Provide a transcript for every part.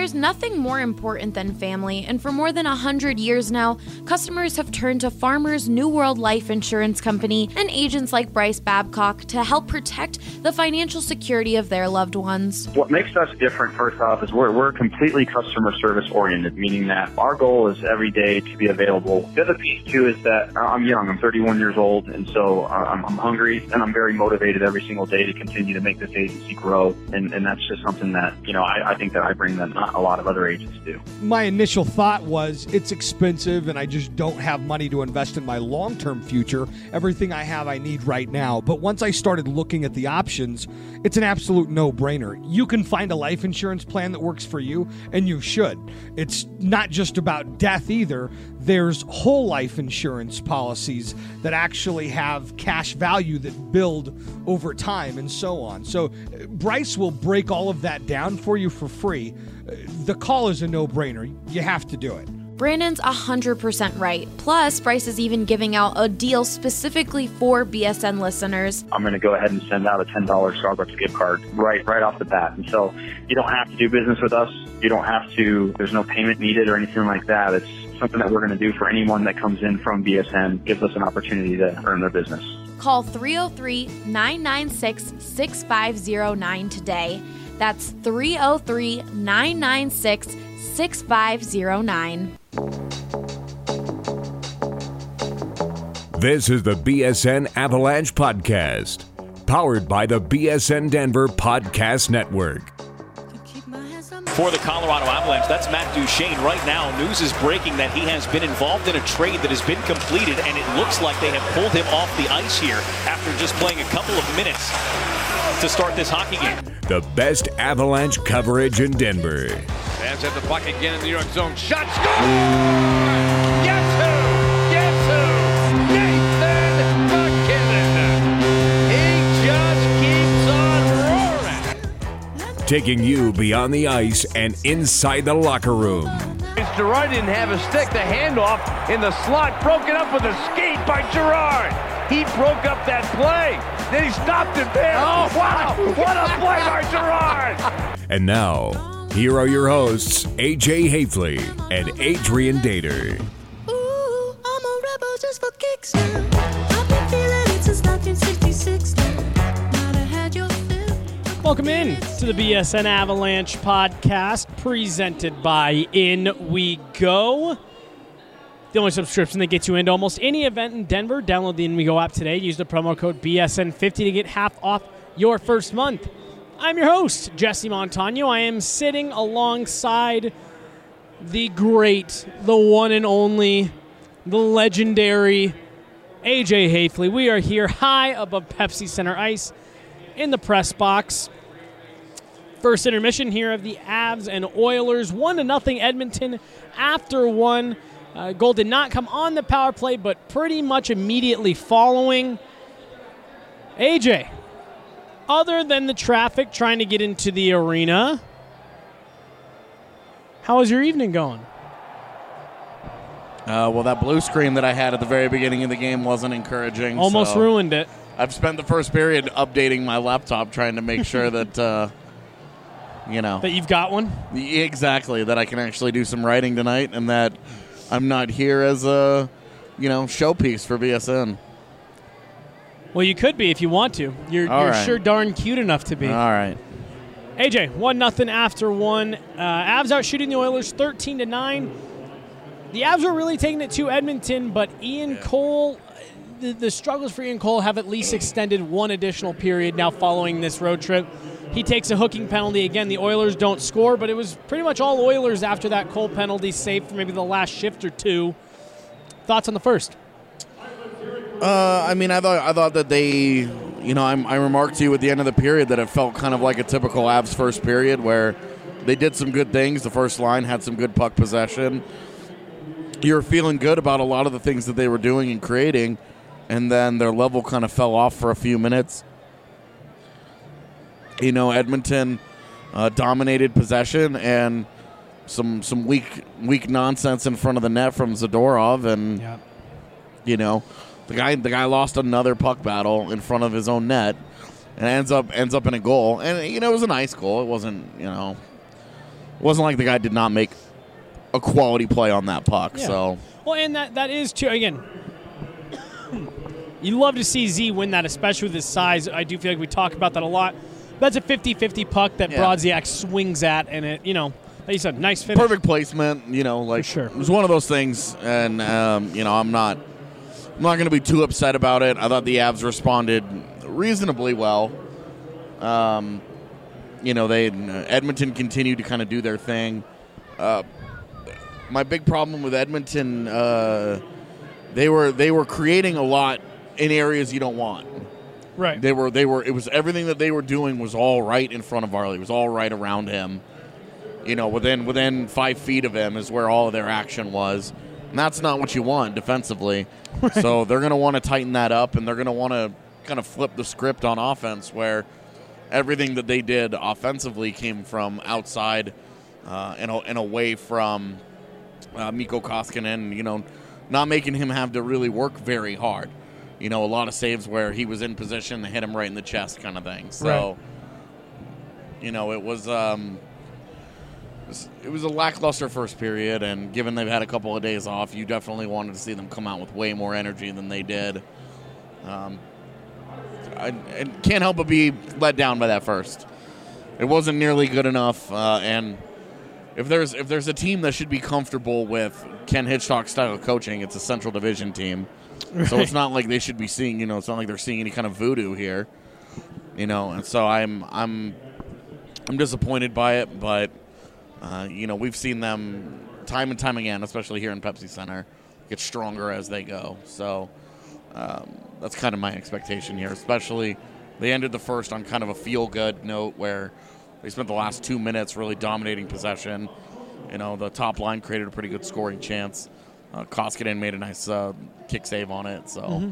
There's nothing more important than family, and for more than 100 years now, customers have turned to Farmers New World Life Insurance Company and agents like Bryce Babcock to help protect the financial security of their loved ones. What makes us different, first off, is we're completely customer service oriented, meaning that our goal is every day to be available. The other piece, too, is that I'm young. I'm 31 years old, and so I'm hungry, and I'm very motivated every single day to continue to make this agency grow, and that's just something that, I think that I bring that not a lot of other agents do. My initial thought was it's expensive, and I just don't have money to invest in my long-term future. Everything I have I need right now. But once I started looking at the options, it's an absolute no-brainer. You can find a life insurance plan that works for you, and you should. It's not just about death either. There's whole life insurance policies that actually have cash value that build over time and so on. So Bryce will break all of that down for you for free. The call is a no-brainer. You have to do it. Brandon's 100% right. Plus, Bryce is even giving out a deal specifically for BSN listeners. I'm going to go ahead and send out a $10 Starbucks gift card right off the bat. And so you don't have to do business with us. You don't have to, there's no payment needed or anything like that. It's something that we're going to do for anyone that comes in from BSN, gives us an opportunity to earn their business. Call 303-996-6509 today. That's 303-996-6509. This is the BSN Avalanche Podcast, powered by the BSN Denver Podcast Network. For the Colorado Avalanche, that's Matt Duchene. Right now, news is breaking that he has been involved in a trade that has been completed, and it looks like they have pulled him off the ice here after just playing a couple of minutes to start this hockey game. The best Avalanche coverage in Denver. Fans at the puck again in the New York zone. Shot, score! Guess who? Nathan MacKinnon. He just keeps on roaring. Taking you beyond the ice and inside the locker room. Girard didn't have a stick. The handoff in the slot, broken up with a skate by Girard. He broke up that play. Then he stopped it there. Oh, wow. What a play by Girard. And now, here are your hosts, AJ Hafley and Adrian Dater. Ooh, I'm a rebel just for kicks now. I've been feeling it since 1966 now. Might have had your fill. Welcome in to the BSN Avalanche Podcast, presented by In We Go. The only subscription that gets you into almost any event in Denver. Download the In We Go app today. Use the promo code BSN50 to get half off your first month. I'm your host, Jesse Montano. I am sitting alongside the great, the one and only, the legendary AJ Hafley. We are here high above Pepsi Center ice in the press box. First intermission here of the Avs and Oilers. 1-0 Edmonton after one. Goal did not come on the power play, but pretty much immediately following. AJ, other than the traffic trying to get into the arena, how was your evening going? Well, that blue screen that I had at the very beginning of the game wasn't encouraging. Almost ruined it. I've spent the first period updating my laptop trying to make sure that, that you've got one? Exactly, that I can actually do some writing tonight and that I'm not here as a, showpiece for BSN. Well, you could be if you want to. You're right. Sure darn cute enough to be. All right. AJ, 1-0 after one. Avs out shooting the Oilers 13-9. The Avs are really taking it to Edmonton, but Ian Cole, the struggles for Ian Cole have at least extended one additional period now following this road trip. He takes a hooking penalty. Again, the Oilers don't score, but it was pretty much all Oilers after that Cole penalty, save for maybe the last shift or two. Thoughts on the first? I thought that they, I remarked to you at the end of the period that it felt kind of like a typical Avs first period where they did some good things. The first line had some good puck possession. You were feeling good about a lot of the things that they were doing and creating, and then their level kind of fell off for a few minutes. Edmonton dominated possession and some weak nonsense in front of the net from Zadorov, and the guy lost another puck battle in front of his own net and ends up in a goal. And it was a nice goal. It wasn't wasn't like the guy did not make a quality play on that puck. Yeah. So, well, and that is too. Again, you love to see Z win that, especially with his size. I do feel like we talk about that a lot. That's a 50-50 puck that Brodziak swings at, and it, like you said, nice finish. Perfect placement, For sure. It was one of those things, and I'm not going to be too upset about it. I thought the Avs responded reasonably well. Edmonton continued to kind of do their thing. My big problem with Edmonton, they were creating a lot in areas you don't want. Right. It was everything that they were doing was all right in front of Varley. It was all right around him. Within 5 feet of him is where all of their action was. And that's not what you want defensively. Right. So they're going to want to tighten that up, and they're going to want to kind of flip the script on offense where everything that they did offensively came from outside and away from Mikko Koskinen, not making him have to really work very hard. A lot of saves where he was in position, they hit him right in the chest kind of thing. So, it was a lackluster first period, and given they've had a couple of days off, you definitely wanted to see them come out with way more energy than they did. I can't help but be let down by that first. It wasn't nearly good enough, and if there's a team that should be comfortable with Ken Hitchcock's style of coaching, it's a Central Division team. Right. So it's not like they should be seeing, it's not like they're seeing any kind of voodoo here, and so I'm disappointed by it, but we've seen them time and time again, especially here in Pepsi Center, get stronger as they go. So that's kind of my expectation here, especially they ended the first on kind of a feel-good note where they spent the last 2 minutes really dominating possession. The top line created a pretty good scoring chance. Koskinen made a nice kick save on it. So,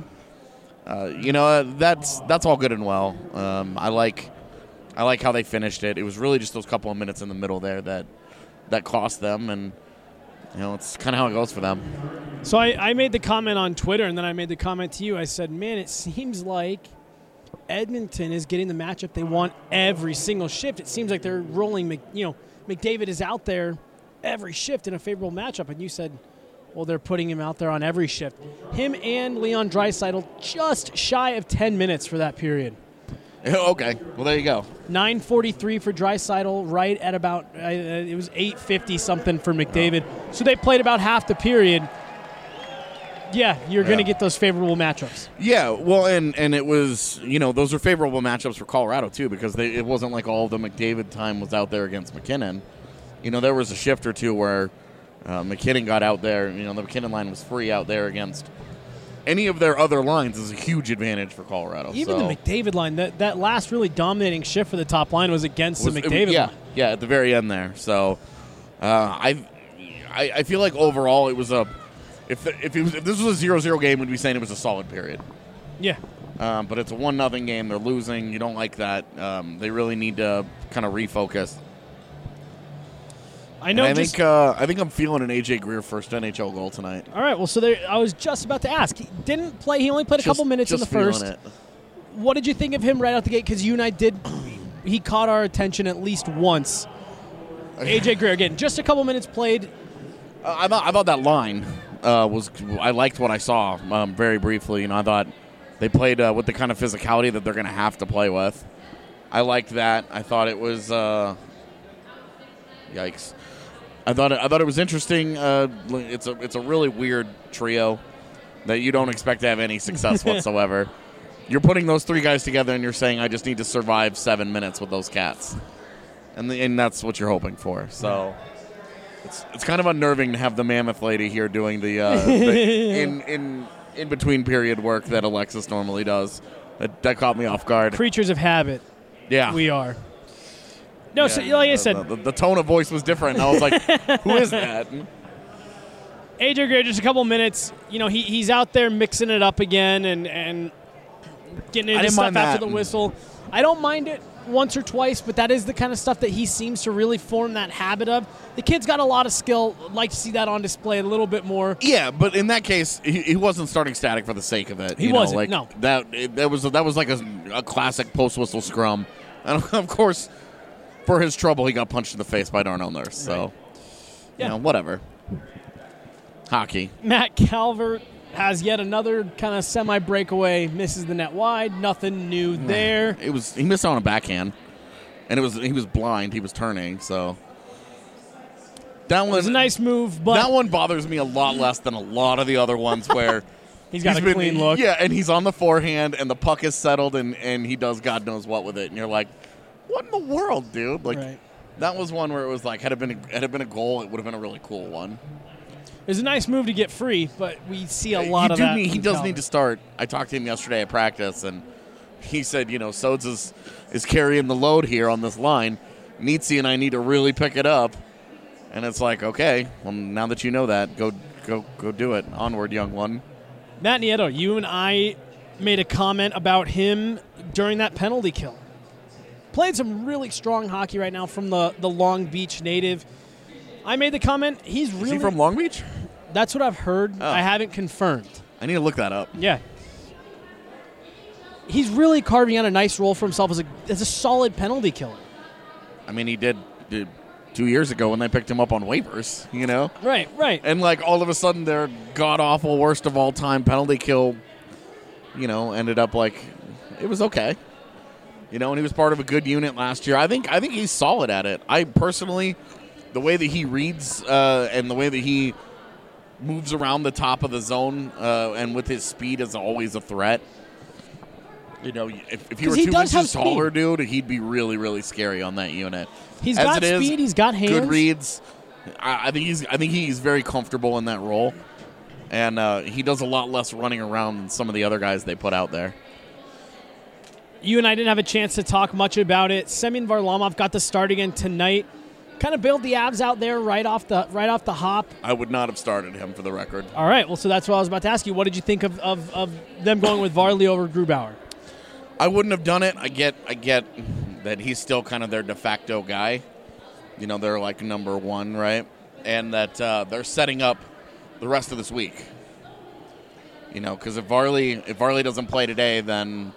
that's all good and well. I like how they finished it. It was really just those couple of minutes in the middle there that cost them, and it's kind of how it goes for them. So I made the comment on Twitter, and then I made the comment to you. I said, man, it seems like Edmonton is getting the matchup they want every single shift. It seems like they're rolling, McDavid is out there every shift in a favorable matchup. And you said, well, they're putting him out there on every shift. Him and Leon Draisaitl just shy of 10 minutes for that period. Okay, well, there you go. 9:43 for Draisaitl, right at about, it was 8:50 something for McDavid. Oh. So they played about half the period. Yeah, you're going to get those favorable matchups. Yeah, well, and it was, those are favorable matchups for Colorado, too, because it wasn't like all of the McDavid time was out there against McKinnon. There was a shift or two where McKinnon got out there. The McKinnon line was free out there against any of their other lines is a huge advantage for Colorado. Even the McDavid line, that last really dominating shift for the top line was against the McDavid line. Yeah, at the very end there. So I feel like overall it was if this was a 0-0 game, we'd be saying it was a solid period. Yeah. But it's a 1-0 game. They're losing. You don't like that. They really need to kind of refocus. I know. I think I'm feeling an AJ Greer first NHL goal tonight. All right. Well, so I was just about to ask. He didn't play. He only played a couple minutes in the first. What did you think of him right out the gate? Because you and I he caught our attention at least once. AJ Greer again, just a couple minutes played. I thought that line I liked what I saw very briefly. I thought they played with the kind of physicality that they're going to have to play with. I liked that. I thought it was yikes. I thought it was interesting. It's a really weird trio that you don't expect to have any success whatsoever. You're putting those three guys together and you're saying, I just need to survive 7 minutes with those cats. And that's what you're hoping for. So it's kind of unnerving to have the mammoth lady here doing the in between period work that Alexis normally does. That caught me off guard. Creatures of habit. Yeah. We are. No, yeah, so like I said. The tone of voice was different. I was like, who is that? AJ Greer, just a couple minutes. He's out there mixing it up again and getting into stuff after the whistle. I don't mind it once or twice, but that is the kind of stuff that he seems to really form that habit of. The kid's got a lot of skill. I'd like to see that on display a little bit more. Yeah, but in that case, he wasn't starting static for the sake of it. He wasn't, no. That was like a classic post-whistle scrum. And, of course, for his trouble, he got punched in the face by Darnell Nurse. So, whatever. Hockey. Matt Calvert has yet another kind of semi-breakaway, misses the net wide. Nothing new there. He missed on a backhand, and he was blind. He was turning, so that one was a nice move. But that one bothers me a lot less than a lot of the other ones where he's got a clean look. Yeah, and he's on the forehand, and the puck is settled, and he does God knows what with it, and you're like, what in the world, dude? Like that was one where it was like had it been a goal, it would have been a really cool one. It was a nice move to get free, but we see a lot of that. He does need to start. I talked to him yesterday at practice, and he said, Sodes is carrying the load here on this line. Nietzsche and I need to really pick it up. And it's like, okay, well, now that you know that, go do it. Onward, young one. Matt Nieto, you and I made a comment about him during that penalty kill. Played some really strong hockey right now from the Long Beach native. I made the comment, he's really... Is he from Long Beach? That's what I've heard. Oh. I haven't confirmed. I need to look that up. Yeah. He's really carving out a nice role for himself as a solid penalty killer. I mean, he did 2 years ago when they picked him up on waivers, Right. And, all of a sudden, their god-awful, worst of all time penalty kill, ended up it was okay. And he was part of a good unit last year. I think he's solid at it. I personally... The way that he reads and the way that he moves around the top of the zone and with his speed is always a threat. If he were 2 inches taller, dude, he'd be really, really scary on that unit. He's got speed. He's got hands. Good reads. I think he's very comfortable in that role, and he does a lot less running around than some of the other guys they put out there. You and I didn't have a chance to talk much about it. Semyon Varlamov got the start again tonight. Kind of build the Avs out there right off the hop. I would not have started him for the record. All right, well, so that's what I was about to ask you. What did you think of them going with Varley over Grubauer? I wouldn't have done it. I get that he's still kind of their de facto guy. They're like number one, right? And that they're setting up the rest of this week. Because if Varley doesn't play today, then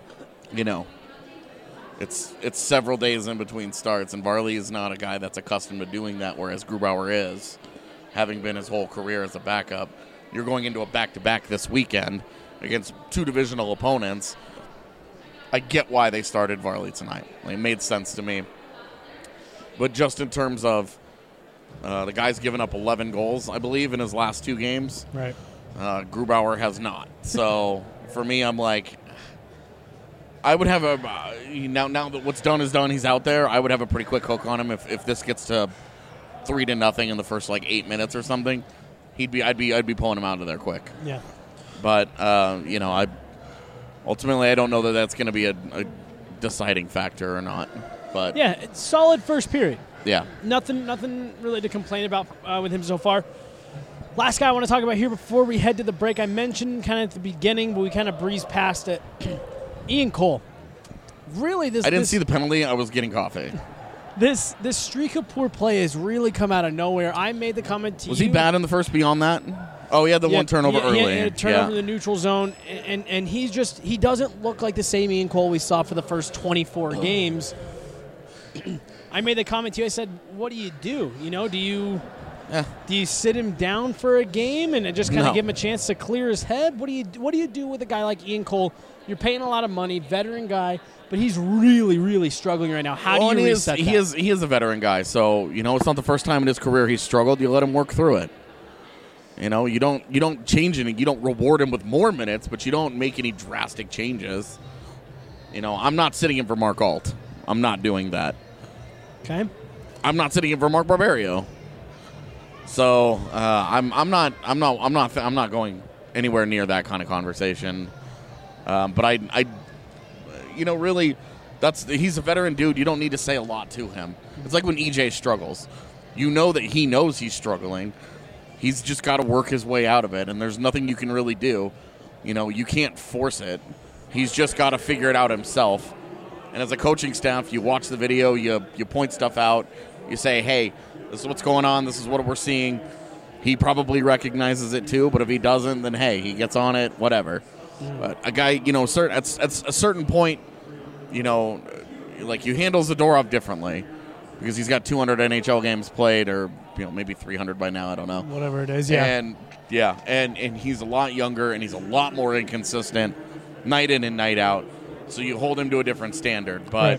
It's several days in between starts, and Varley is not a guy that's accustomed to doing that, whereas Grubauer is, having been his whole career as a backup. You're going into a back-to-back this weekend against 2 divisional opponents. I get why they started Varley tonight. It made sense to me. But just in terms of the guy's given up 11 goals, I believe, in his last 2 games. Right. Grubauer has not. So for me, I'm like... I would have now that what's done is done. He's out there. I would have a pretty quick hook on him if this gets to 3-0 in the first 8 minutes or something. I'd be pulling him out of there quick. Yeah. But I ultimately I don't know that that's going to be a deciding factor or not. But yeah, it's solid first period. Yeah. Nothing really to complain about with him so far. Last guy I want to talk about here before we head to the break. I mentioned kind of at the beginning, but we kind of breezed past it. Ian Cole. Really, I didn't see the penalty. I was getting coffee. This streak of poor play has really come out of nowhere. I made the comment to you. Was he bad in the first beyond that? Oh, he had the one turnover early. He had a turnover in the neutral zone, and he doesn't look like the same Ian Cole we saw for the first 24 games. I made the comment to you. I said, what do? Do you sit him down for a game and just kind of give him a chance to clear his head? What do you do with a guy like Ian Cole? You're paying a lot of money, veteran guy, but he's really, really struggling right now. How do you reset that? He is a veteran guy, so it's not the first time in his career he's struggled. You let him work through it. You don't change anything. You don't reward him with more minutes, but you don't make any drastic changes. I'm not sitting in for Mark Alt. I'm not doing that. Okay. I'm not sitting in for Mark Barberio. So I'm not going anywhere near that kind of conversation. But I really, he's a veteran dude. You don't need to say a lot to him. It's like when EJ struggles. That he knows he's struggling. He's just got to work his way out of it, and there's nothing you can really do. You can't force it. He's just got to figure it out himself. And as a coaching staff, you watch the video, you point stuff out, you say, hey, this is what's going on, this is what we're seeing. He probably recognizes it too, but if he doesn't, then hey, he gets on it, whatever. But a guy, at a certain point, you handle Zadorov differently. because he's got 200 NHL games played, or maybe 300 by now. I don't know. Whatever it is, yeah. And he's a lot younger, and he's a lot more inconsistent, night in and night out. So you hold him to a different standard. But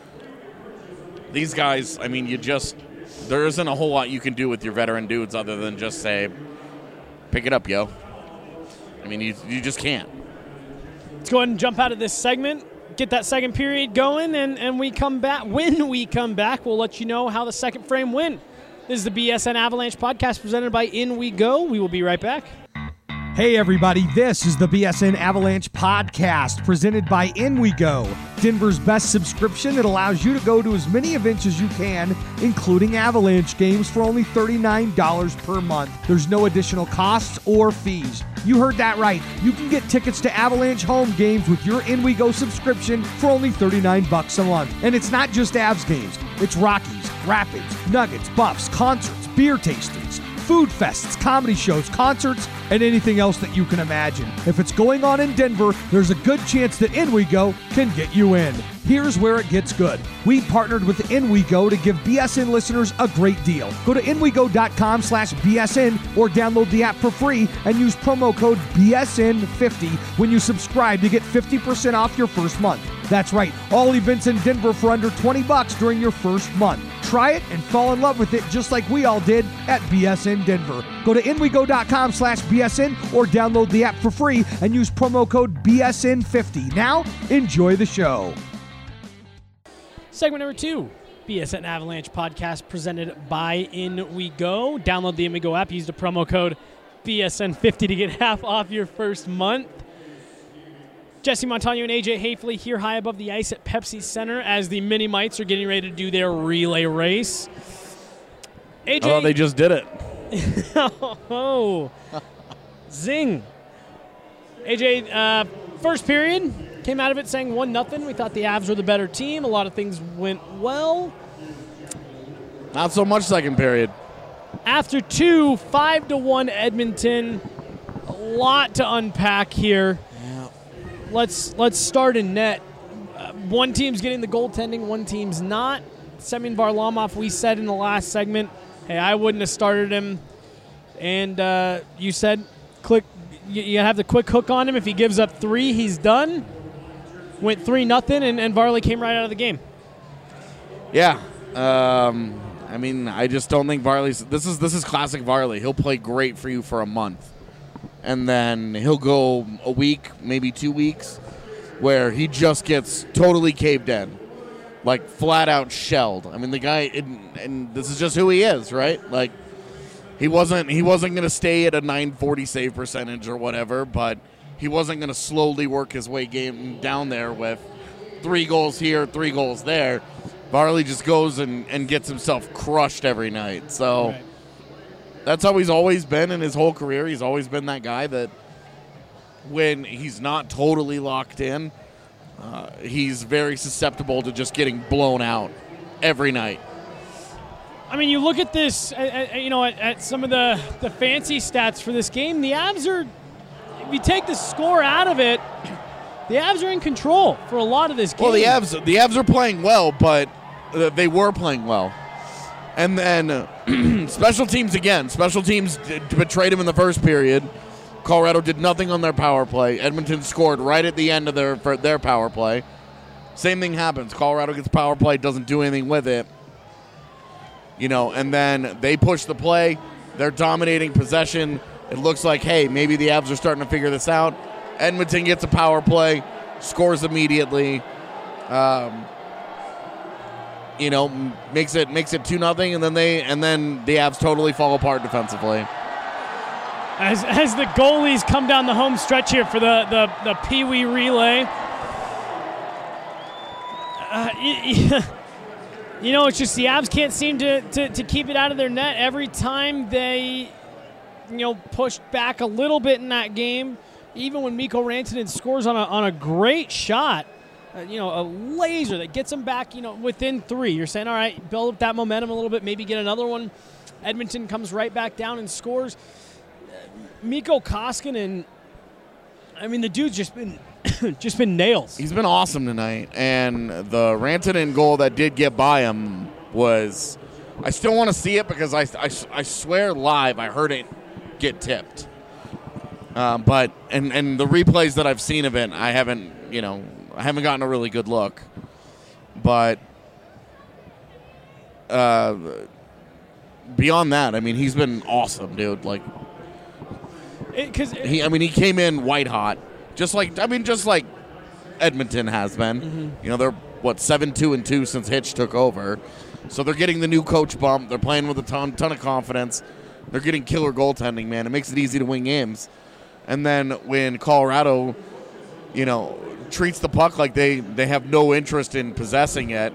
these guys, I mean, there isn't a whole lot you can do with your veteran dudes other than just say, pick it up, yo. I mean, you just can't. Let's go ahead and jump out of this segment, get that second period going, and we come back. When we come back, we'll let you know how the second frame went. This is the BSN Avalanche podcast presented by In We Go. We will be right back. Hey everybody, this is the BSN Avalanche podcast presented by In We Go, Denver's best subscription that allows you to go to as many events as you can, including Avalanche games, for only $39 per month. There's no additional costs or fees. You heard that right. You can get tickets to Avalanche home games with your In We Go subscription for only $39 a month. And it's not just Avs games. It's Rockies, Rapids, Nuggets, Buffs, concerts, beer tastings, food fests, comedy shows, concerts, and anything else that you can imagine. If it's going on in Denver, there's a good chance that In We Go can get you in. Here's where it gets good. We partnered with In We Go to give BSN listeners a great deal. Go to inwego.com/BSN or download the app for free and use promo code BSN50 when you subscribe to get 50% off your first month. That's right, all events in Denver for under $20 during your first month. Try it and fall in love with it just like we all did at BSN Denver. Go to inwego.com/BSN or download the app for free and use promo code BSN50. Now, enjoy the show. Segment number 2, BSN Avalanche podcast presented by In We Go. Download the In We Go app. Use the promo code BSN50 to get half off your first month. Jesse Montano and AJ Hafley here high above the ice at Pepsi Center as the Mini Mites are getting ready to do their relay race. AJ, oh, they just did it. Oh, zing. AJ, first period, came out of it saying 1-0. We thought the Avs were the better team. A lot of things went well. Not so much second period. After 2, 5-1 Edmonton. A lot to unpack here. Let's start in net. One team's getting the goaltending, one team's not. Semyon Varlamov, we said in the last segment, hey, I wouldn't have started him. And you said, you have the quick hook on him. If he gives up 3, he's done. Went 3-0, and Varley came right out of the game. Yeah. I mean, I just don't think Varley's. This is classic Varley. He'll play great for you for a month. And then he'll go a week, maybe 2 weeks, where he just gets totally caved in, like flat out shelled. I mean, the guy, and this is just who he is, right? Like, he wasn't going to stay at a 940 save percentage or whatever, but he wasn't going to slowly work his way down there with 3 goals here, 3 goals there. Varley just goes and gets himself crushed every night. So. Right. That's how he's always been in his whole career. He's always been that guy that when he's not totally locked in, he's very susceptible to just getting blown out every night. I mean, you look at this, at some of the fancy stats for this game, the Avs are, if you take the score out of it, the Avs are in control for a lot of this game. Well, the Avs are playing well, but they were playing well. And then special teams again. Special teams betrayed him in the first period. Colorado did nothing on their power play. Edmonton scored right at the end of their power play. Same thing happens. Colorado gets power play, doesn't do anything with it. And then they push the play. They're dominating possession. It looks like, hey, maybe the Avs are starting to figure this out. Edmonton gets a power play, scores immediately. Makes it 2-0, and then the Avs totally fall apart defensively. As the goalies come down the home stretch here for the Pee Wee relay, it's just the Avs can't seem to keep it out of their net. Every time they, pushed back a little bit in that game, even when Mikko Rantanen scores on a great shot. A laser that gets them back, within 3. You're saying, all right, build up that momentum a little bit, maybe get another one. Edmonton comes right back down and scores. Mikko Koskinen, I mean, the dude's just been nails. He's been awesome tonight, and the Rantanen goal that did get by him was. I still want to see it because I swear live I heard it get tipped. But the replays that I've seen of it, I haven't gotten a really good look. But beyond that, I mean, he's been awesome, dude. Like, he came in white hot, just like Edmonton has been. Mm-hmm. You know, they're 7-2-2 since Hitch took over, so they're getting the new coach bump. They're playing with a ton of confidence. They're getting killer goaltending, man. It makes it easy to win games. And then when Colorado, treats the puck like they have no interest in possessing it,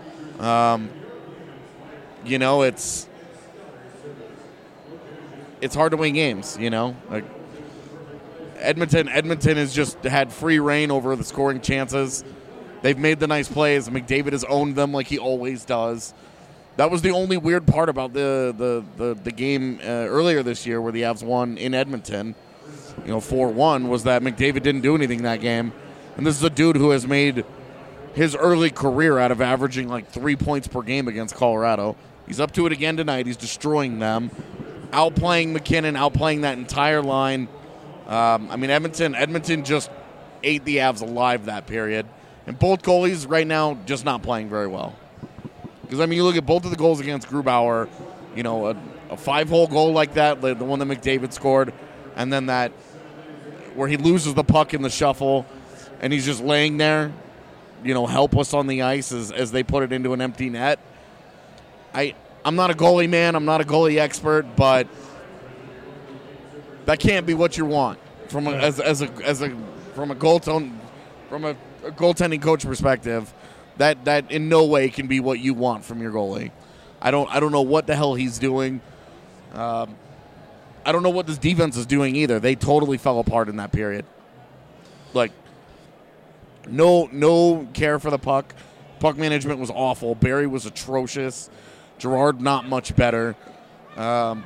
it's hard to win games, Like Edmonton has just had free reign over the scoring chances. They've made the nice plays. McDavid has owned them like he always does. That was the only weird part about the game earlier this year where the Avs won in Edmonton, 4-1, was that McDavid didn't do anything that game. And this is a dude who has made his early career out of averaging like 3 points per game against Colorado. He's up to it again tonight. He's destroying them, outplaying McKinnon, outplaying that entire line. Edmonton just ate the Avs alive that period. And both goalies right now just not playing very well. Because, you look at both of the goals against Grubauer, a 5-hole goal like that, the one that McDavid scored, and then that where he loses the puck in the shuffle, and he's just laying there, helpless on the ice as they put it into an empty net. I'm not a goalie man. I'm not a goalie expert, but that can't be what you want from a goaltending coach perspective. That in no way can be what you want from your goalie. I don't know what the hell he's doing. I don't know what this defense is doing either. They totally fell apart in that period. Like, no care for the puck. Puck management was awful. Barry was atrocious. Gerard not much better. Patrick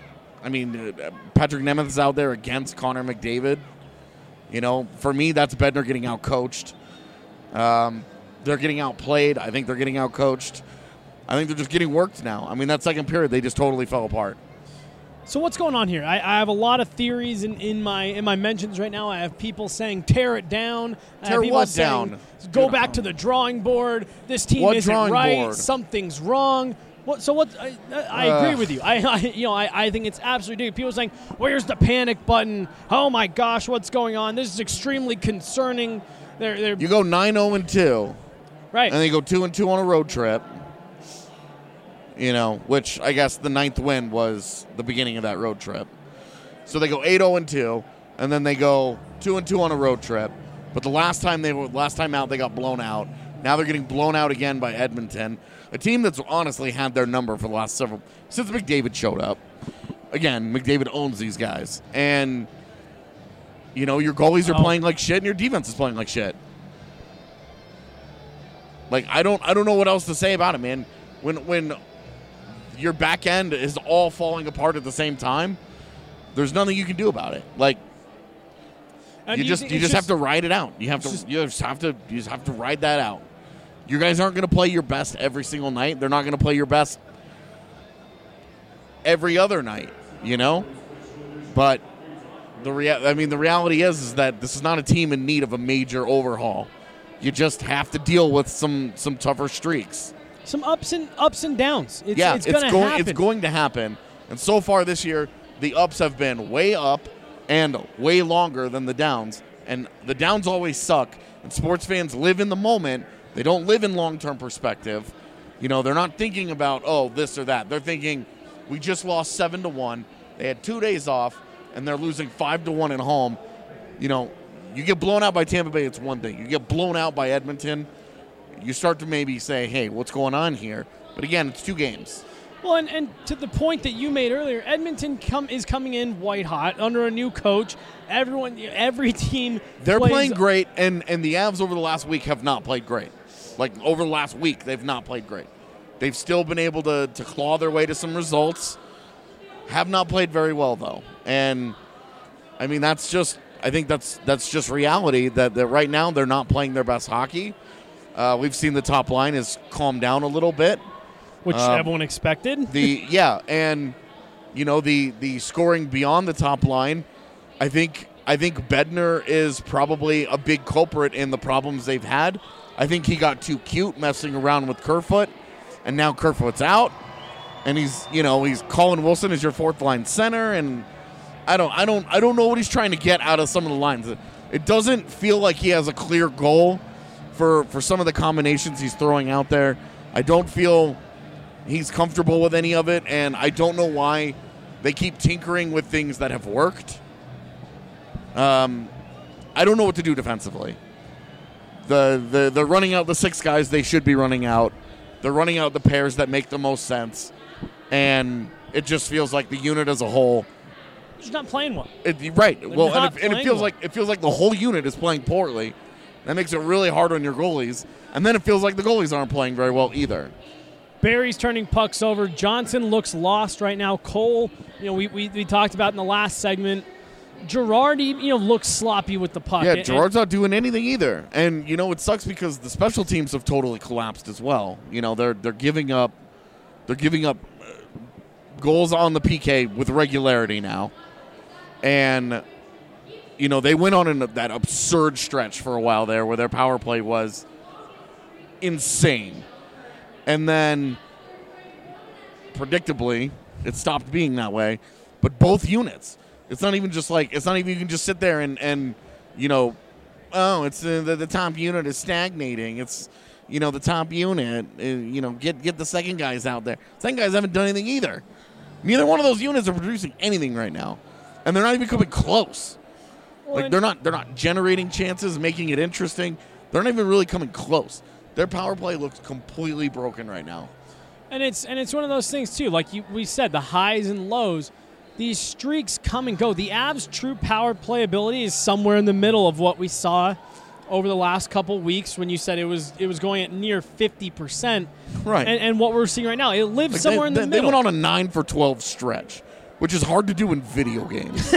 Nemeth is out there against Connor McDavid. For me, that's Bednar getting out-coached. They're getting outplayed. I think they're getting out-coached. I think they're just getting worked now. That second period, they just totally fell apart. So what's going on here? I have a lot of theories in my mentions right now. I have people saying tear it down. Tear what down? Go back to the drawing board. This team isn't right. Something's wrong. I agree with you. I think it's absolutely ridiculous. People are saying, "Where's the panic button? Oh my gosh, what's going on? This is extremely concerning." You go 9-0-2, right? And then you go 2-2 on a road trip. Which I guess the 9th win was the beginning of that road trip. So they go 8-0-2, and then they go 2-2 on a road trip. But the last time out, they got blown out. Now they're getting blown out again by Edmonton, a team that's honestly had their number for the last since McDavid showed up. Again, McDavid owns these guys, and your goalies are playing like shit, and your defense is playing like shit. Like I don't know what else to say about it, man. When your back end is all falling apart at the same time, there's nothing you can do about it. Like you just have to ride it out. You just have to ride that out. You guys aren't going to play your best every single night. They're not going to play your best every other night, But the reality is that this is not a team in need of a major overhaul. You just have to deal with some tougher streaks. Some ups and downs. It's going to happen. And so far this year, the ups have been way up and way longer than the downs. And the downs always suck. And sports fans live in the moment. They don't live in long-term perspective. They're not thinking about, this or that. They're thinking, we just lost 7-1. They had 2 days off, and they're losing 5-1 at home. You get blown out by Tampa Bay, it's one thing. You get blown out by Edmonton, you start to maybe say, hey, what's going on here? But again, it's 2 games. Well, and to the point that you made earlier, Edmonton is coming in white hot under a new coach. Every team they're playing great, and the Avs over the last week have not played great. Like, over the last week, they've not played great. They've still been able to claw their way to some results. Have not played very well, though. And, I think that's just reality, that right now they're not playing their best hockey. We've seen the top line has calmed down a little bit. which everyone expected. And the scoring beyond the top line. I think Bednar is probably a big culprit in the problems they've had. I think he got too cute messing around with Kerfoot, and now Kerfoot's out, and he's Colin Wilson is your fourth line center, and I don't know what he's trying to get out of some of the lines. It doesn't feel like he has a clear goal for some of the combinations he's throwing out there. I don't feel he's comfortable with any of it, and I don't know why they keep tinkering with things that have worked. I don't know what to do defensively. They're running out the 6 guys they should be running out. They're running out the pairs that make the most sense, and it just feels like the unit as a whole. Just not playing well. Right. They're Well, not and it feels playing like the whole unit is playing poorly. That makes it really hard on your goalies, and then it feels like the goalies aren't playing very well either. Barry's turning pucks over. Johnson looks lost right now. Cole, we talked about in the last segment. Gerard, looks sloppy with the puck. Yeah, Gerard's not doing anything either. And, it sucks because the special teams have totally collapsed as well. They're giving up goals on the PK with regularity now. And, they went on that absurd stretch for a while there where their power play was insane. And then, predictably, it stopped being that way. But both units. It's not even you can just sit there and it's the top unit is stagnating. It's, the top unit, get the second guys out there. Second guys haven't done anything either. Neither one of those units are producing anything right now. And they're not even coming close. Like, they're not generating chances, making it interesting. They're not even really coming close. Their power play looks completely broken right now. And it's one of those things, too. Like we said, the highs and lows. These streaks come and go. The Avs' true power play ability is somewhere in the middle of what we saw over the last couple weeks when you said it was going at near 50%. Right. And what we're seeing right now, it lives somewhere in the middle. They went on a 9 for 12 stretch, which is hard to do in video games.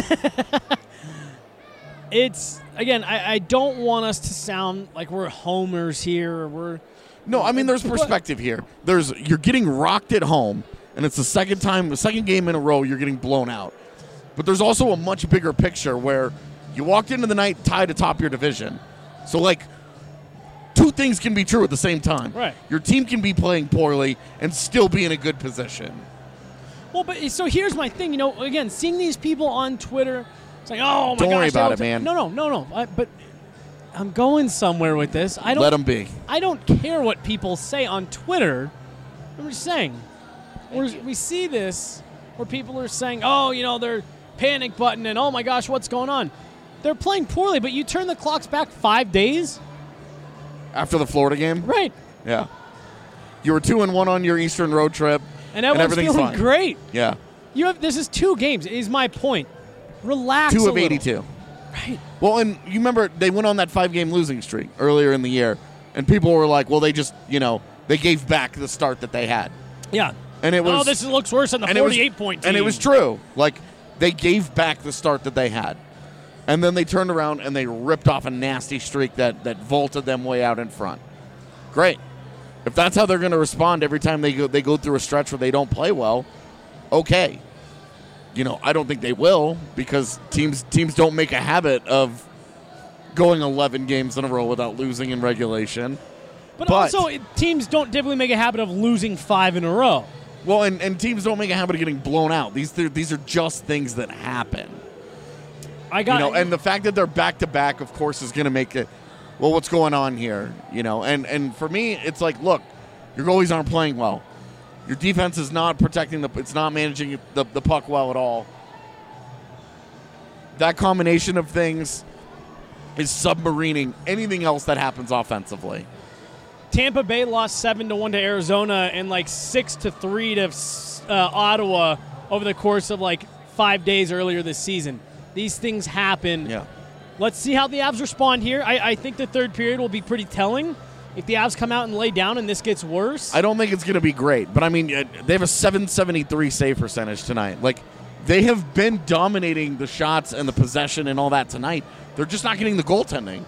It's, again, I don't want us to sound like we're homers here. No, I mean, there's perspective here. You're getting rocked at home. And it's the second game in a row you're getting blown out. But there's also a much bigger picture where you walked into the night tied atop your division. So, two things can be true at the same time. Right. Your team can be playing poorly and still be in a good position. Well, but so here's my thing. Again, seeing these people on Twitter, it's like, oh, my gosh. Don't worry about it, man. No. But I'm going somewhere with this. Let them be. I don't care what people say on Twitter. I'm just saying. We see this where people are saying, oh, they're panic button and, oh, my gosh, what's going on? They're playing poorly, but you turn the clocks back 5 days. After the Florida game? Right. Yeah. You were 2-1 on your Eastern road trip. And everything's feeling fine. Great. Yeah. This is 2 games, is my point. Relax 2 a of little. 82. Right. Well, and you remember they went on that 5-game losing streak earlier in the year, and people were like, well, they just, they gave back the start that they had. Yeah. And it was, this looks worse than the 48-point team. And it was true. They gave back the start that they had. And then they turned around and they ripped off a nasty streak that vaulted them way out in front. Great. If that's how they're going to respond every time they go through a stretch where they don't play well, okay. I don't think they will because teams don't make a habit of going 11 games in a row without losing in regulation. But also, teams don't typically make a habit of losing 5 in a row. Well, and teams don't make a habit of getting blown out. These are just things that happen. And the fact that they're back-to-back, of course, is going to make it, well, what's going on here? And for me, it's like, look, your goalies aren't playing well. Your defense is not protecting it's not managing the puck well at all. That combination of things is submarining anything else that happens offensively. Tampa Bay lost 7-1 to Arizona and 6-3 to Ottawa over the course of 5 days earlier this season. These things happen. Yeah. Let's see how the Avs respond here. I think the third period will be pretty telling. If the Avs come out and lay down and this gets worse. I don't think it's going to be great, but I mean, they have a .773 save percentage tonight. They have been dominating the shots and the possession and all that tonight. They're just not getting the goaltending.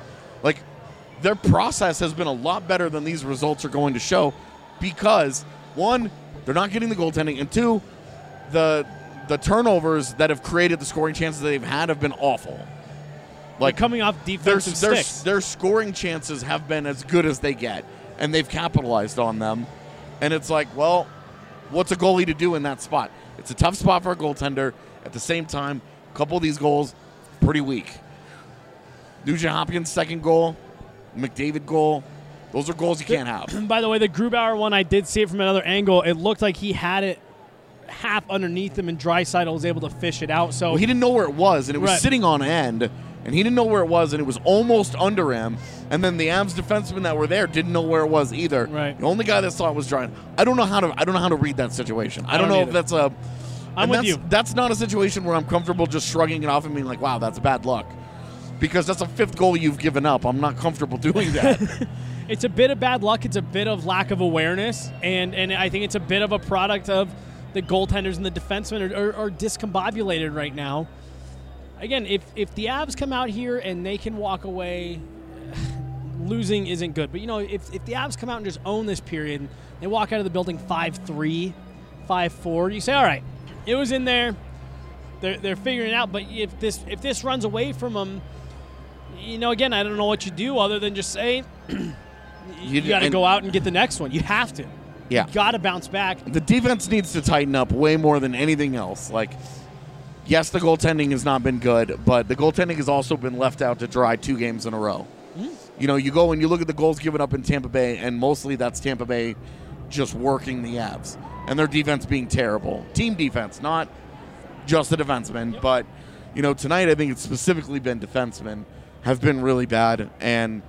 Their process has been a lot better than these results are going to show because, one, they're not getting the goaltending, and 2, the turnovers that have created the scoring chances that they've had have been awful. Like coming off defensive sticks. Their scoring chances have been as good as they get, and they've capitalized on them. And it's like, well, what's a goalie to do in that spot? It's a tough spot for a goaltender. At the same time, a couple of these goals, pretty weak. Nugent Hopkins' second goal, McDavid goal, those are goals you can't have. By the way, the Grubauer one, I did see it from another angle. It looked like he had it half underneath him, and Draisaitl was able to fish it out. So he didn't know where it was, and it was Right. sitting on end, and he didn't know where it was, and it was almost under him. And then the Avs defensemen that were there didn't know where it was either. Right. The only guy that saw it was Draisaitl. I don't know how to read that situation. I don't know either. if that's a. I'm with you. That's not a situation where I'm comfortable just shrugging it off and being like, "Wow, that's bad luck," because that's a 5th goal you've given up. I'm not comfortable doing that. It's a bit of bad luck. It's a bit of lack of awareness, and I think it's a bit of a product of the goaltenders and the defensemen are discombobulated right now. Again, if the Avs come out here and they can walk away, losing isn't good. But, if the Avs come out and just own this period, they walk out of the building 5-3, 5-4, you say, all right, it was in there. They're figuring it out. But if this runs away from them, again, I don't know what you do other than just say you got to go out and get the next one. You have to. Yeah. You got to bounce back. The defense needs to tighten up way more than anything else. Like, yes, the goaltending has not been good, but the goaltending has also been left out to dry 2 games in a row. You go and you look at the goals given up in Tampa Bay, and mostly that's Tampa Bay just working the Avs. And their defense being terrible. Team defense, not just the defensemen. Yep. But, tonight I think it's specifically been defensemen have been really bad. And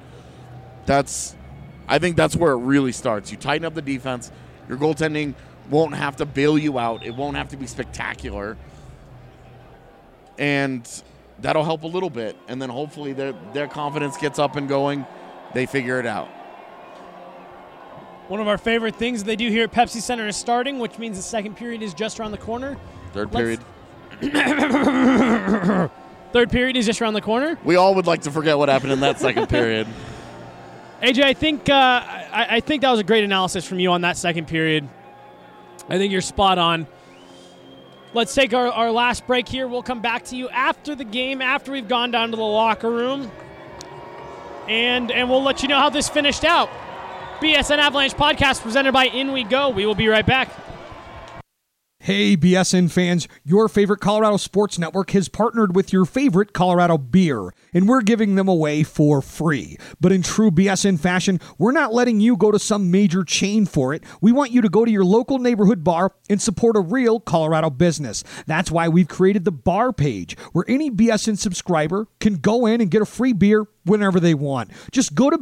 I think that's where it really starts. You tighten up the defense. Your goaltending won't have to bail you out. It won't have to be spectacular. And that'll help a little bit. And then hopefully their confidence gets up and going. They figure it out. One of our favorite things they do here at Pepsi Center is starting, which means the second period is just around the corner. Third period is just around the corner. We all would like to forget what happened in that second period. AJ, I think that was a great analysis from you on that second period. I think you're spot on. Let's take our last break here. We'll come back to you after the game, after we've gone down to the locker room, and we'll let you know how this finished out. BSN Avalanche podcast presented by In We Go. We will be right back. Hey, BSN fans, your favorite Colorado Sports Network has partnered with your favorite Colorado beer, and we're giving them away for free. But in true BSN fashion, we're not letting you go to some major chain for it. We want you to go to your local neighborhood bar and support a real Colorado business. That's why we've created the bar page, where any BSN subscriber can go in and get a free beer whenever they want. Just go to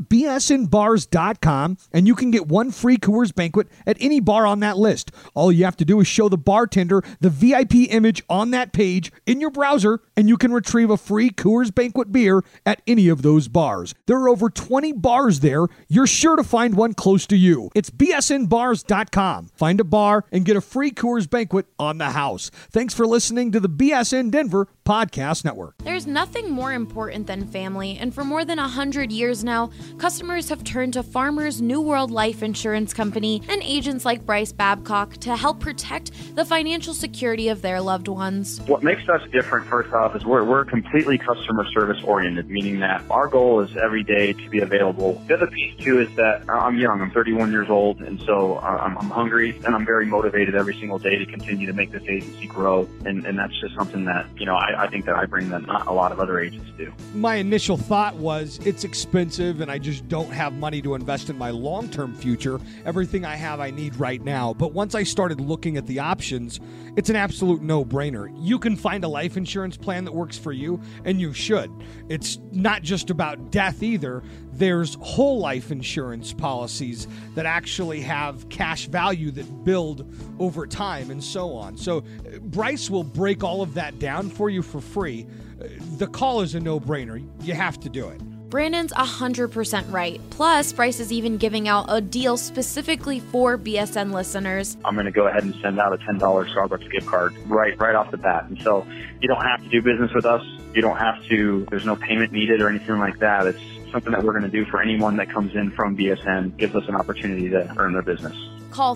bsnbars.com and you can get 1 free Coors Banquet at any bar on that list. All you have to do is show the bartender the VIP image on that page in your browser, and you can retrieve a free Coors Banquet beer at any of those bars. There are over 20 bars there. You're sure to find one close to you. It's bsnbars.com. Find a bar and get a free Coors Banquet on the house. Thanks for listening to the BSN Denver Podcast Network. There's nothing more important than family, and for more than 100 years now, customers have turned to Farmers New World Life Insurance Company and agents like Bryce Babcock to help protect the financial security of their loved ones. What makes us different, first off, is we're completely customer service oriented, meaning that our goal is every day to be available. The other piece, too, is that I'm young. I'm 31 years old, and so I'm hungry, and I'm very motivated every single day to continue to make this agency grow, and that's just something that, I think that I bring that not a lot of other agents do. My initial thought was it's expensive and I just don't have money to invest in my long-term future. Everything I have I need right now. But once I started looking at the options, it's an absolute no-brainer. You can find a life insurance plan that works for you, and you should. It's not just about death either. There's whole life insurance policies that actually have cash value that build over time and so on. So Bryce will break all of that down for you for free. The call is a no-brainer. You have to do it. Brandon's 100% right. Plus, Bryce is even giving out a deal specifically for BSN listeners. I'm going to go ahead and send out a $10 Starbucks gift card right off the bat. And so you don't have to do business with us. You don't have to, there's no payment needed or anything like that. It's something that we're going to do for anyone that comes in from BSN, gives us an opportunity to earn their business. Call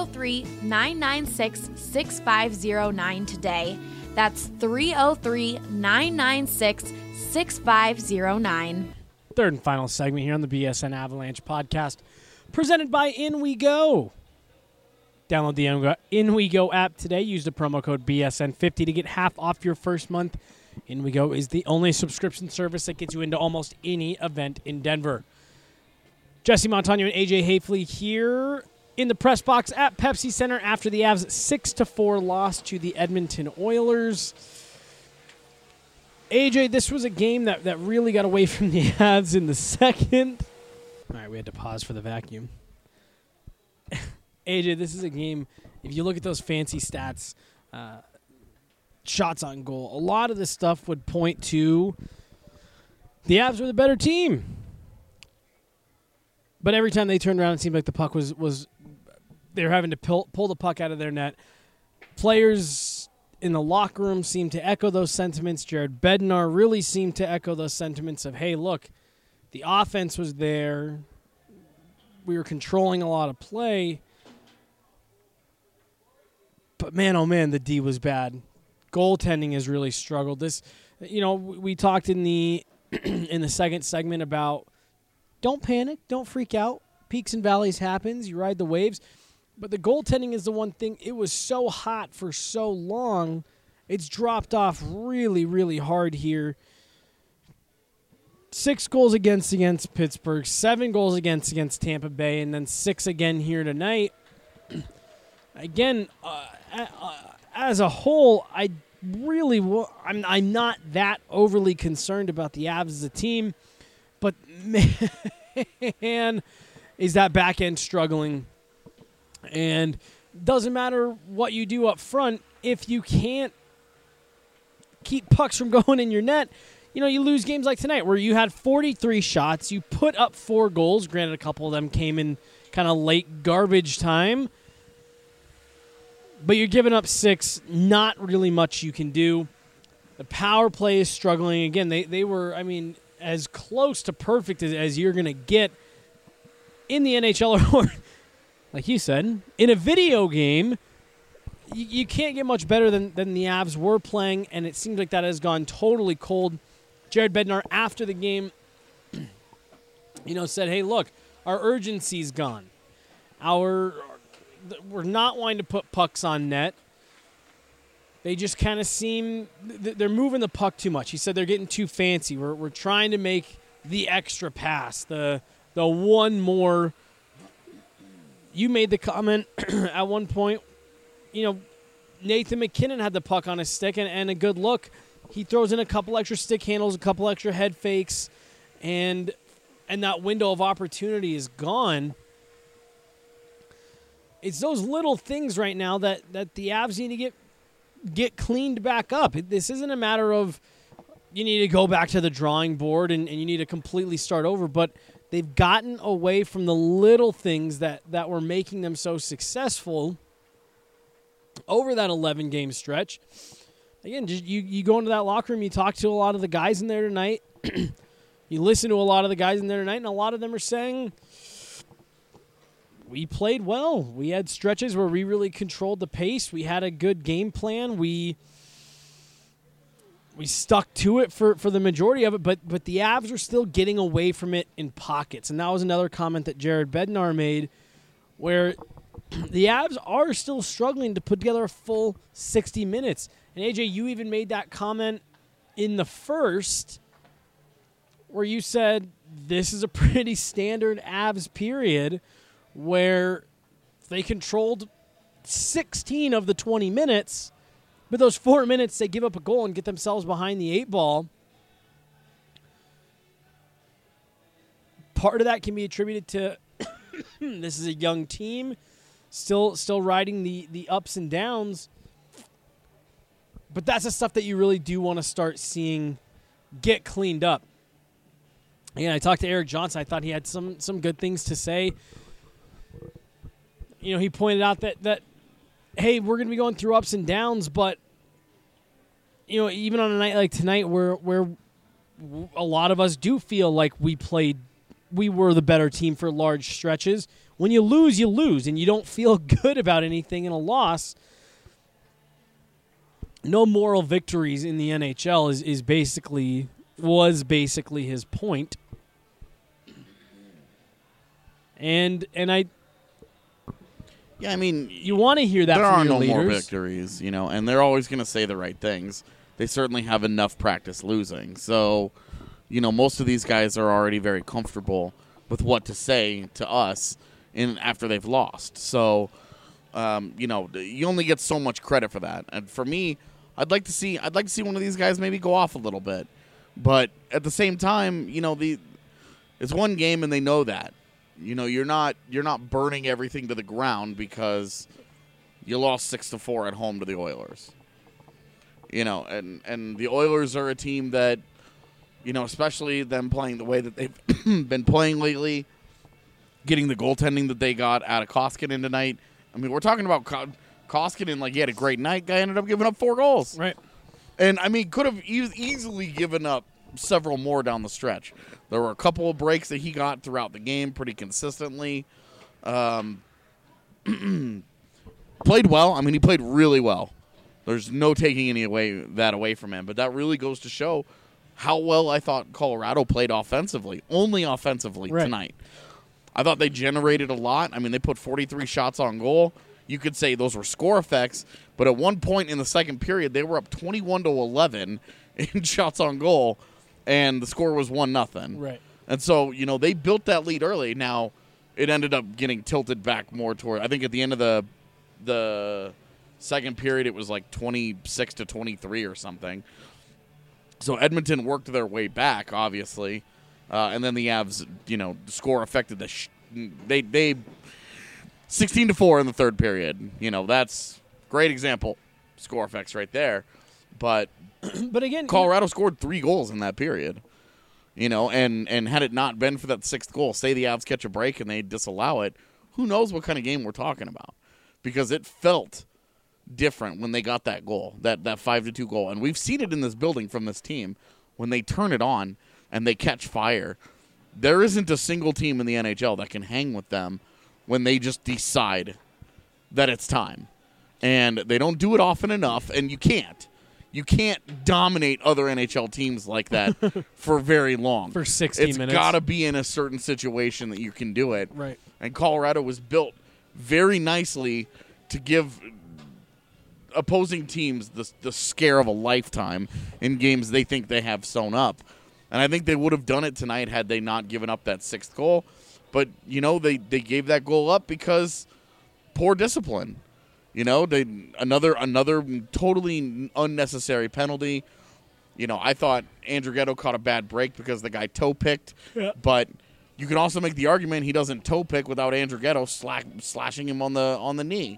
303-996-6509 today. That's 303-996-6509. Third and final segment here on the BSN Avalanche podcast, presented by In We Go. Download the In We Go app today. Use the promo code BSN50 to get half off your first month. In We Go is the only subscription service that gets you into almost any event in Denver. Jesse Montano and AJ Hafley here in the press box at Pepsi Center after the Avs 6-4 loss to the Edmonton Oilers. AJ, this was a game that really got away from the Avs in the second. All right, we had to pause for the vacuum. AJ, this is a game, if you look at those fancy stats, shots on goal, a lot of this stuff would point to the Avs were the better team. But every time they turned around, it seemed like the puck was they were having to pull the puck out of their net. Players in the locker room seemed to echo those sentiments. Jared Bednar really seemed to echo those sentiments of, hey, look, the offense was there. We were controlling a lot of play. But, man, oh, man, the D was bad. Goaltending has really struggled. This, we talked in the in the second segment about don't panic, don't freak out. Peaks and valleys happens. You ride the waves. But the goaltending is the one thing. It was so hot for so long. It's dropped off really, really hard here. 6 goals against Pittsburgh, 7 goals against Tampa Bay, and then 6 again here tonight. Again, as a whole, I'm not that overly concerned about the Avs as a team, but man, is that back end struggling. And doesn't matter what you do up front, if you can't keep pucks from going in your net, you lose games like tonight where you had 43 shots, you put up 4 goals. Granted, a couple of them came in kind of late garbage time, but you're giving up 6, not really much you can do. The power play is struggling. Again, they were, as close to perfect as you're going to get in the NHL or like you said, in a video game, you can't get much better than the Avs were playing, and it seems like that has gone totally cold. Jared Bednar, after the game, said, hey, look, our urgency's gone. We're not wanting to put pucks on net. They just kind of seem they're moving the puck too much. He said they're getting too fancy. We're trying to make the extra pass, the one more. You made the comment at one point, Nathan McKinnon had the puck on his stick and a good look. He throws in a couple extra stick handles, a couple extra head fakes, and that window of opportunity is gone. It's those little things right now that the Avs need to get cleaned back up. This isn't a matter of you need to go back to the drawing board and you need to completely start over, but they've gotten away from the little things that were making them so successful over that 11-game stretch. Again, just you go into that locker room, you talk to a lot of the guys in there tonight, you listen to a lot of the guys in there tonight, and a lot of them are saying, we played well. We had stretches where we really controlled the pace. We had a good game plan. We stuck to it for the majority of it, but the Avs are still getting away from it in pockets. And that was another comment that Jared Bednar made, where the Avs are still struggling to put together a full 60 minutes. And AJ, you even made that comment in the first where you said this is a pretty standard Avs period where they controlled 16 of the 20 minutes, but those 4 minutes they give up a goal and get themselves behind the 8 ball. Part of that can be attributed to this is a young team, still riding the ups and downs. But that's the stuff that you really do want to start seeing get cleaned up. Again, I talked to Eric Johnson. I thought he had some good things to say. He pointed out that hey, we're going to be going through ups and downs, but even on a night like tonight where a lot of us do feel like we were the better team for large stretches, when you lose, and you don't feel good about anything in a loss. No moral victories in the NHL was basically his point. And I mean, you want to hear that there from are your no more leaders. victories, and they're always going to say the right things. They certainly have enough practice losing. So, most of these guys are already very comfortable with what to say to us after they've lost. So, you only get so much credit for that. And for me, I'd like to see one of these guys maybe go off a little bit. But at the same time, it's one game and they know that. You're not burning everything to the ground because you lost 6-4 at home to the Oilers. And the Oilers are a team that, especially them playing the way that they've been playing lately, getting the goaltending that they got out of Koskinen tonight. I mean, we're talking about Koskinen like he had a great night. Guy ended up giving up 4 goals. Right. And, I mean, could have easily given up several more down the stretch. There were a couple of breaks that he got throughout the game pretty consistently. Played well. I mean, he played really well. There's no taking that away from him. But that really goes to show how well I thought Colorado played offensively, only offensively tonight. I thought they generated a lot. I mean, they put 43 shots on goal. You could say those were score effects, but at one point in the second period, they were up 21-11 in shots on goal, and the score was 1-0. Right. And so, they built that lead early. Now, it ended up getting tilted back more toward, I think at the end of the second period, it was like 26-23 or something. So Edmonton worked their way back, obviously, and then the Avs, score affected they 16-4 in the third period. That's great example, score effects right there. But again, Colorado scored 3 goals in that period. And had it not been for that 6th goal, say the Avs catch a break and they disallow it, who knows what kind of game we're talking about? Because it felt different when they got that goal, that 5-2 goal. And we've seen it in this building from this team. When they turn it on and they catch fire, there isn't a single team in the NHL that can hang with them when they just decide that it's time. And they don't do it often enough, and you can't. You can't dominate other NHL teams like that for very long. For 60 minutes. It's got to be in a certain situation that you can do it. Right. And Colorado was built very nicely to give opposing teams the scare of a lifetime in games they think they have sewn up. And I think they would have done it tonight had they not given up that 6th goal. But, they gave that goal up because poor discipline. Another totally unnecessary penalty. I thought Andrew Ghetto caught a bad break because the guy toe-picked. Yeah. But you can also make the argument he doesn't toe-pick without Andrew Ghetto slashing him on the knee.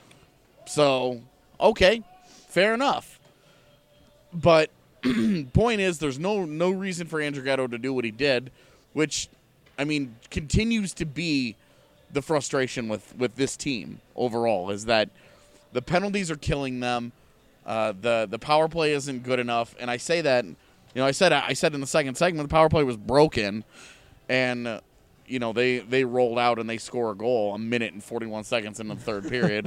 So, okay, fair enough. But point is, there's no reason for Andrew Ghetto to do what he did, which, I mean, continues to be the frustration with this team overall, is that the penalties are killing them. The power play isn't good enough, and I say that, I said in the second segment the power play was broken, and they rolled out and they score a goal 1 minute and 41 seconds in the third period.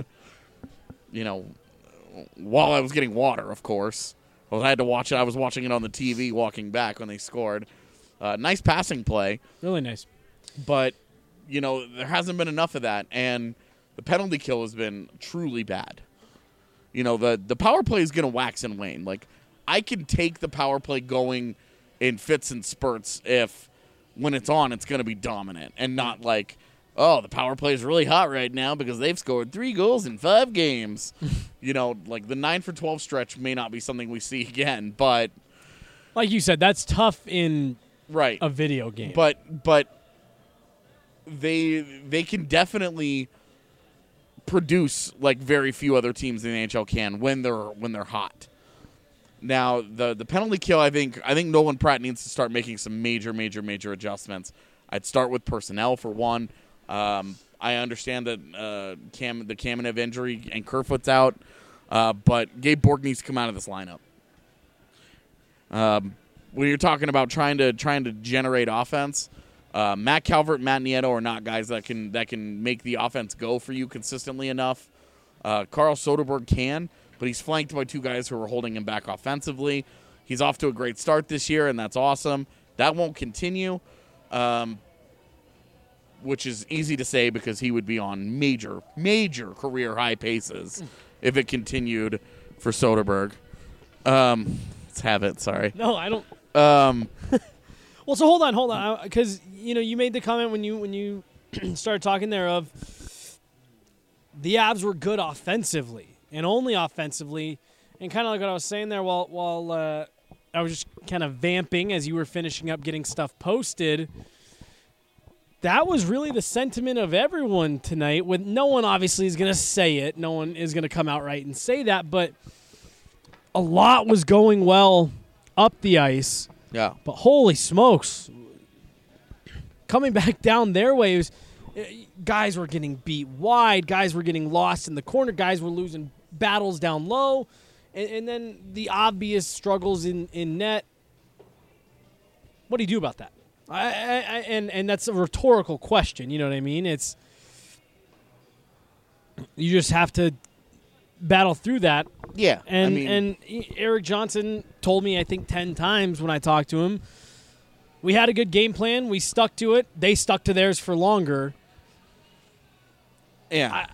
While I was getting water, of course. Well, I had to watch it. I was watching it on the TV walking back when they scored. Nice passing play. Really nice. But, there hasn't been enough of that, and the penalty kill has been truly bad. The power play is going to wax and wane. Like, I can take the power play going in fits and spurts if, when it's on, it's going to be dominant and not like, oh, the power play is really hot right now because they've scored 3 goals in 5 games. Like the 9-for-12 stretch may not be something we see again, but like you said, that's tough in right a video game. But they can definitely produce like very few other teams in the NHL can when they're hot. Now the penalty kill, I think Nolan Pratt needs to start making some major adjustments. I'd start with personnel for one. I understand that the Kamenev injury and Kerfoot's out, but Gabe Bork needs to come out of this lineup. When you're talking about trying to generate offense, Matt Calvert, Matt Nieto are not guys that can make the offense go for you consistently enough. Carl Soderberg can, but he's flanked by 2 guys who are holding him back offensively. He's off to a great start this year, and that's awesome. That won't continue, which is easy to say because he would be on major career high paces if it continued for Soderberg. Let's have it. Sorry. No, I don't. Well, so hold on, because you made the comment when you started talking there of the Avs were good offensively and only offensively, and kind of like what I was saying there while I was just kind of vamping as you were finishing up getting stuff posted. That was really the sentiment of everyone tonight. With no one obviously is going to say it, no one is going to come out right and say that, but a lot was going well up the ice. Yeah. But holy smokes, coming back down their way, guys were getting beat wide, guys were getting lost in the corner, guys were losing battles down low, and then the obvious struggles in net. What do you do about that? And that's a rhetorical question, you know what I mean? You just have to battle through that. Yeah. And Eric Johnson told me, I think 10 times when I talked to him, we had a good game plan. We stuck to it. They stuck to theirs for longer. Yeah.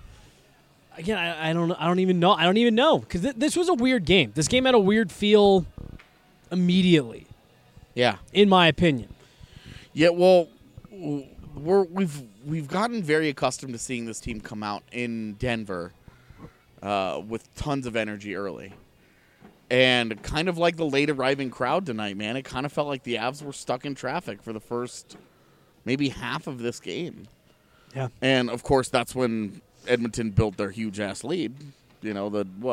I don't even know. I don't even know because this was a weird game. This game had a weird feel immediately. Yeah. In my opinion. Yeah. Well, we've gotten very accustomed to seeing this team come out in Denver with tons of energy early. And kind of like the late arriving crowd tonight, man, it kind of felt like the Avs were stuck in traffic for the first maybe half of this game. Yeah. And, of course, that's when Edmonton built their huge-ass lead. You know,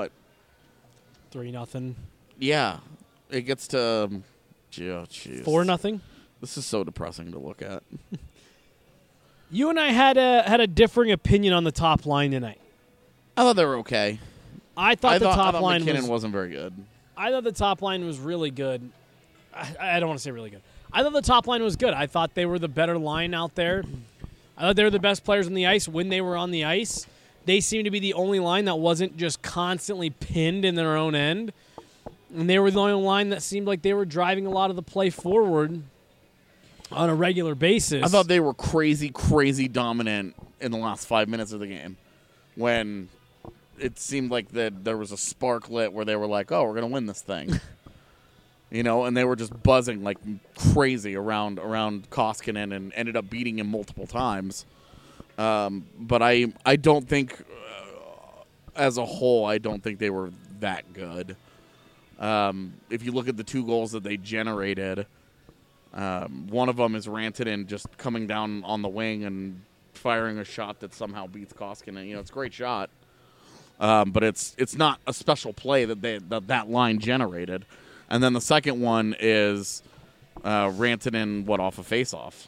3-0. Yeah. It gets to 4-0. This is so depressing to look at. You and I had a differing opinion on the top line tonight. I thought they were okay. I thought the top line McKinnon wasn't very good. I thought the top line was really good. I don't want to say really good. I thought the top line was good. I thought they were the better line out there. I thought they were the best players on the ice when they were on the ice. They seemed to be the only line that wasn't just constantly pinned in their own end. And they were the only line that seemed like they were driving a lot of the play forward on a regular basis. I thought they were crazy, crazy dominant in the last 5 minutes of the game when it seemed like that there was a spark lit where they were like, oh, we're going to win this thing. And they were just buzzing like crazy around Koskinen and ended up beating him multiple times. But I don't think, as a whole, I don't think they were that good. If you look at the 2 goals that they generated, one of them is Rantanen just coming down on the wing and firing a shot that somehow beats Koskinen. It's a great shot. But it's not a special play that line generated. And then the second one is Rantanen, off a face-off.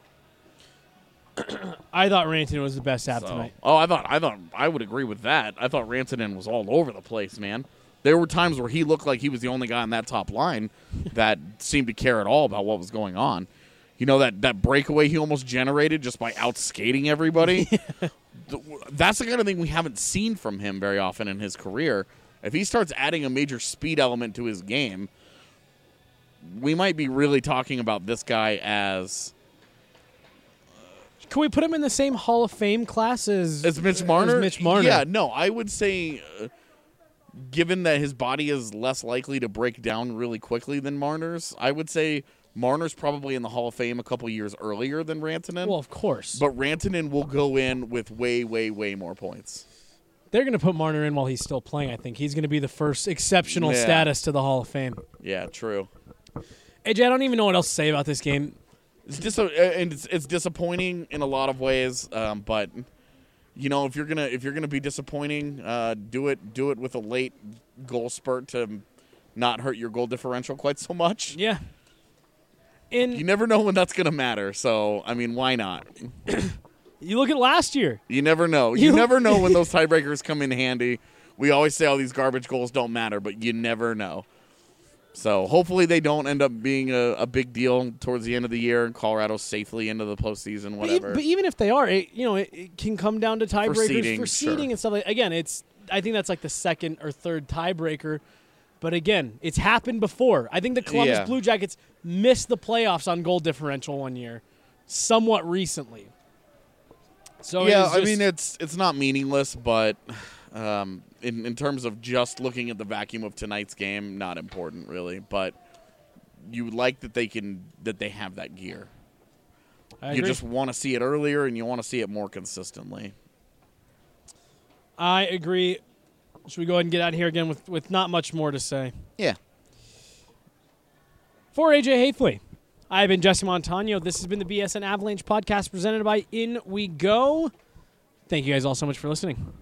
I thought Rantanen was the best Av tonight. Oh, I thought I would agree with that. I thought Rantanen was all over the place, man. There were times where he looked like he was the only guy on that top line that seemed to care at all about what was going on. That breakaway he almost generated just by outskating everybody. That's the kind of thing we haven't seen from him very often in his career. If he starts adding a major speed element to his game, we might be really talking about this guy as... Can we put him in the same Hall of Fame class as Mitch Marner? As Mitch Marner? Yeah, no, I would say, given that his body is less likely to break down really quickly than Marner's, I would say Marner's probably in the Hall of Fame a couple years earlier than Rantanen. Well, of course. But Rantanen will go in with way, way, way more points. They're going to put Marner in while he's still playing, I think. He's going to be the first exceptional status to the Hall of Fame. Yeah, true. AJ, I don't even know what else to say about this game. It's disappointing in a lot of ways, but if you're gonna be disappointing, do it with a late goal spurt to not hurt your goal differential quite so much. Yeah. And you never know when that's gonna matter. So why not? You look at last year. You never know. You never know when those tiebreakers come in handy. We always say all these garbage goals don't matter, but you never know. So hopefully they don't end up being a big deal towards the end of the year and Colorado safely into the postseason, whatever. But even if they are, it can come down to tiebreakers for seeding and stuff. Again, I think that's like the second or third tiebreaker. But again, it's happened before. I think the Columbus Blue Jackets missed the playoffs on goal differential one year, somewhat recently. So it's not meaningless, but in terms of just looking at the vacuum of tonight's game, not important really. But you like that they have that gear. You just want to see it earlier, and you want to see it more consistently. I agree. Should we go ahead and get out of here again with not much more to say? Yeah. For AJ Haefele, I've been Jesse Montano. This has been the BSN Avalanche podcast presented by In We Go. Thank you guys all so much for listening.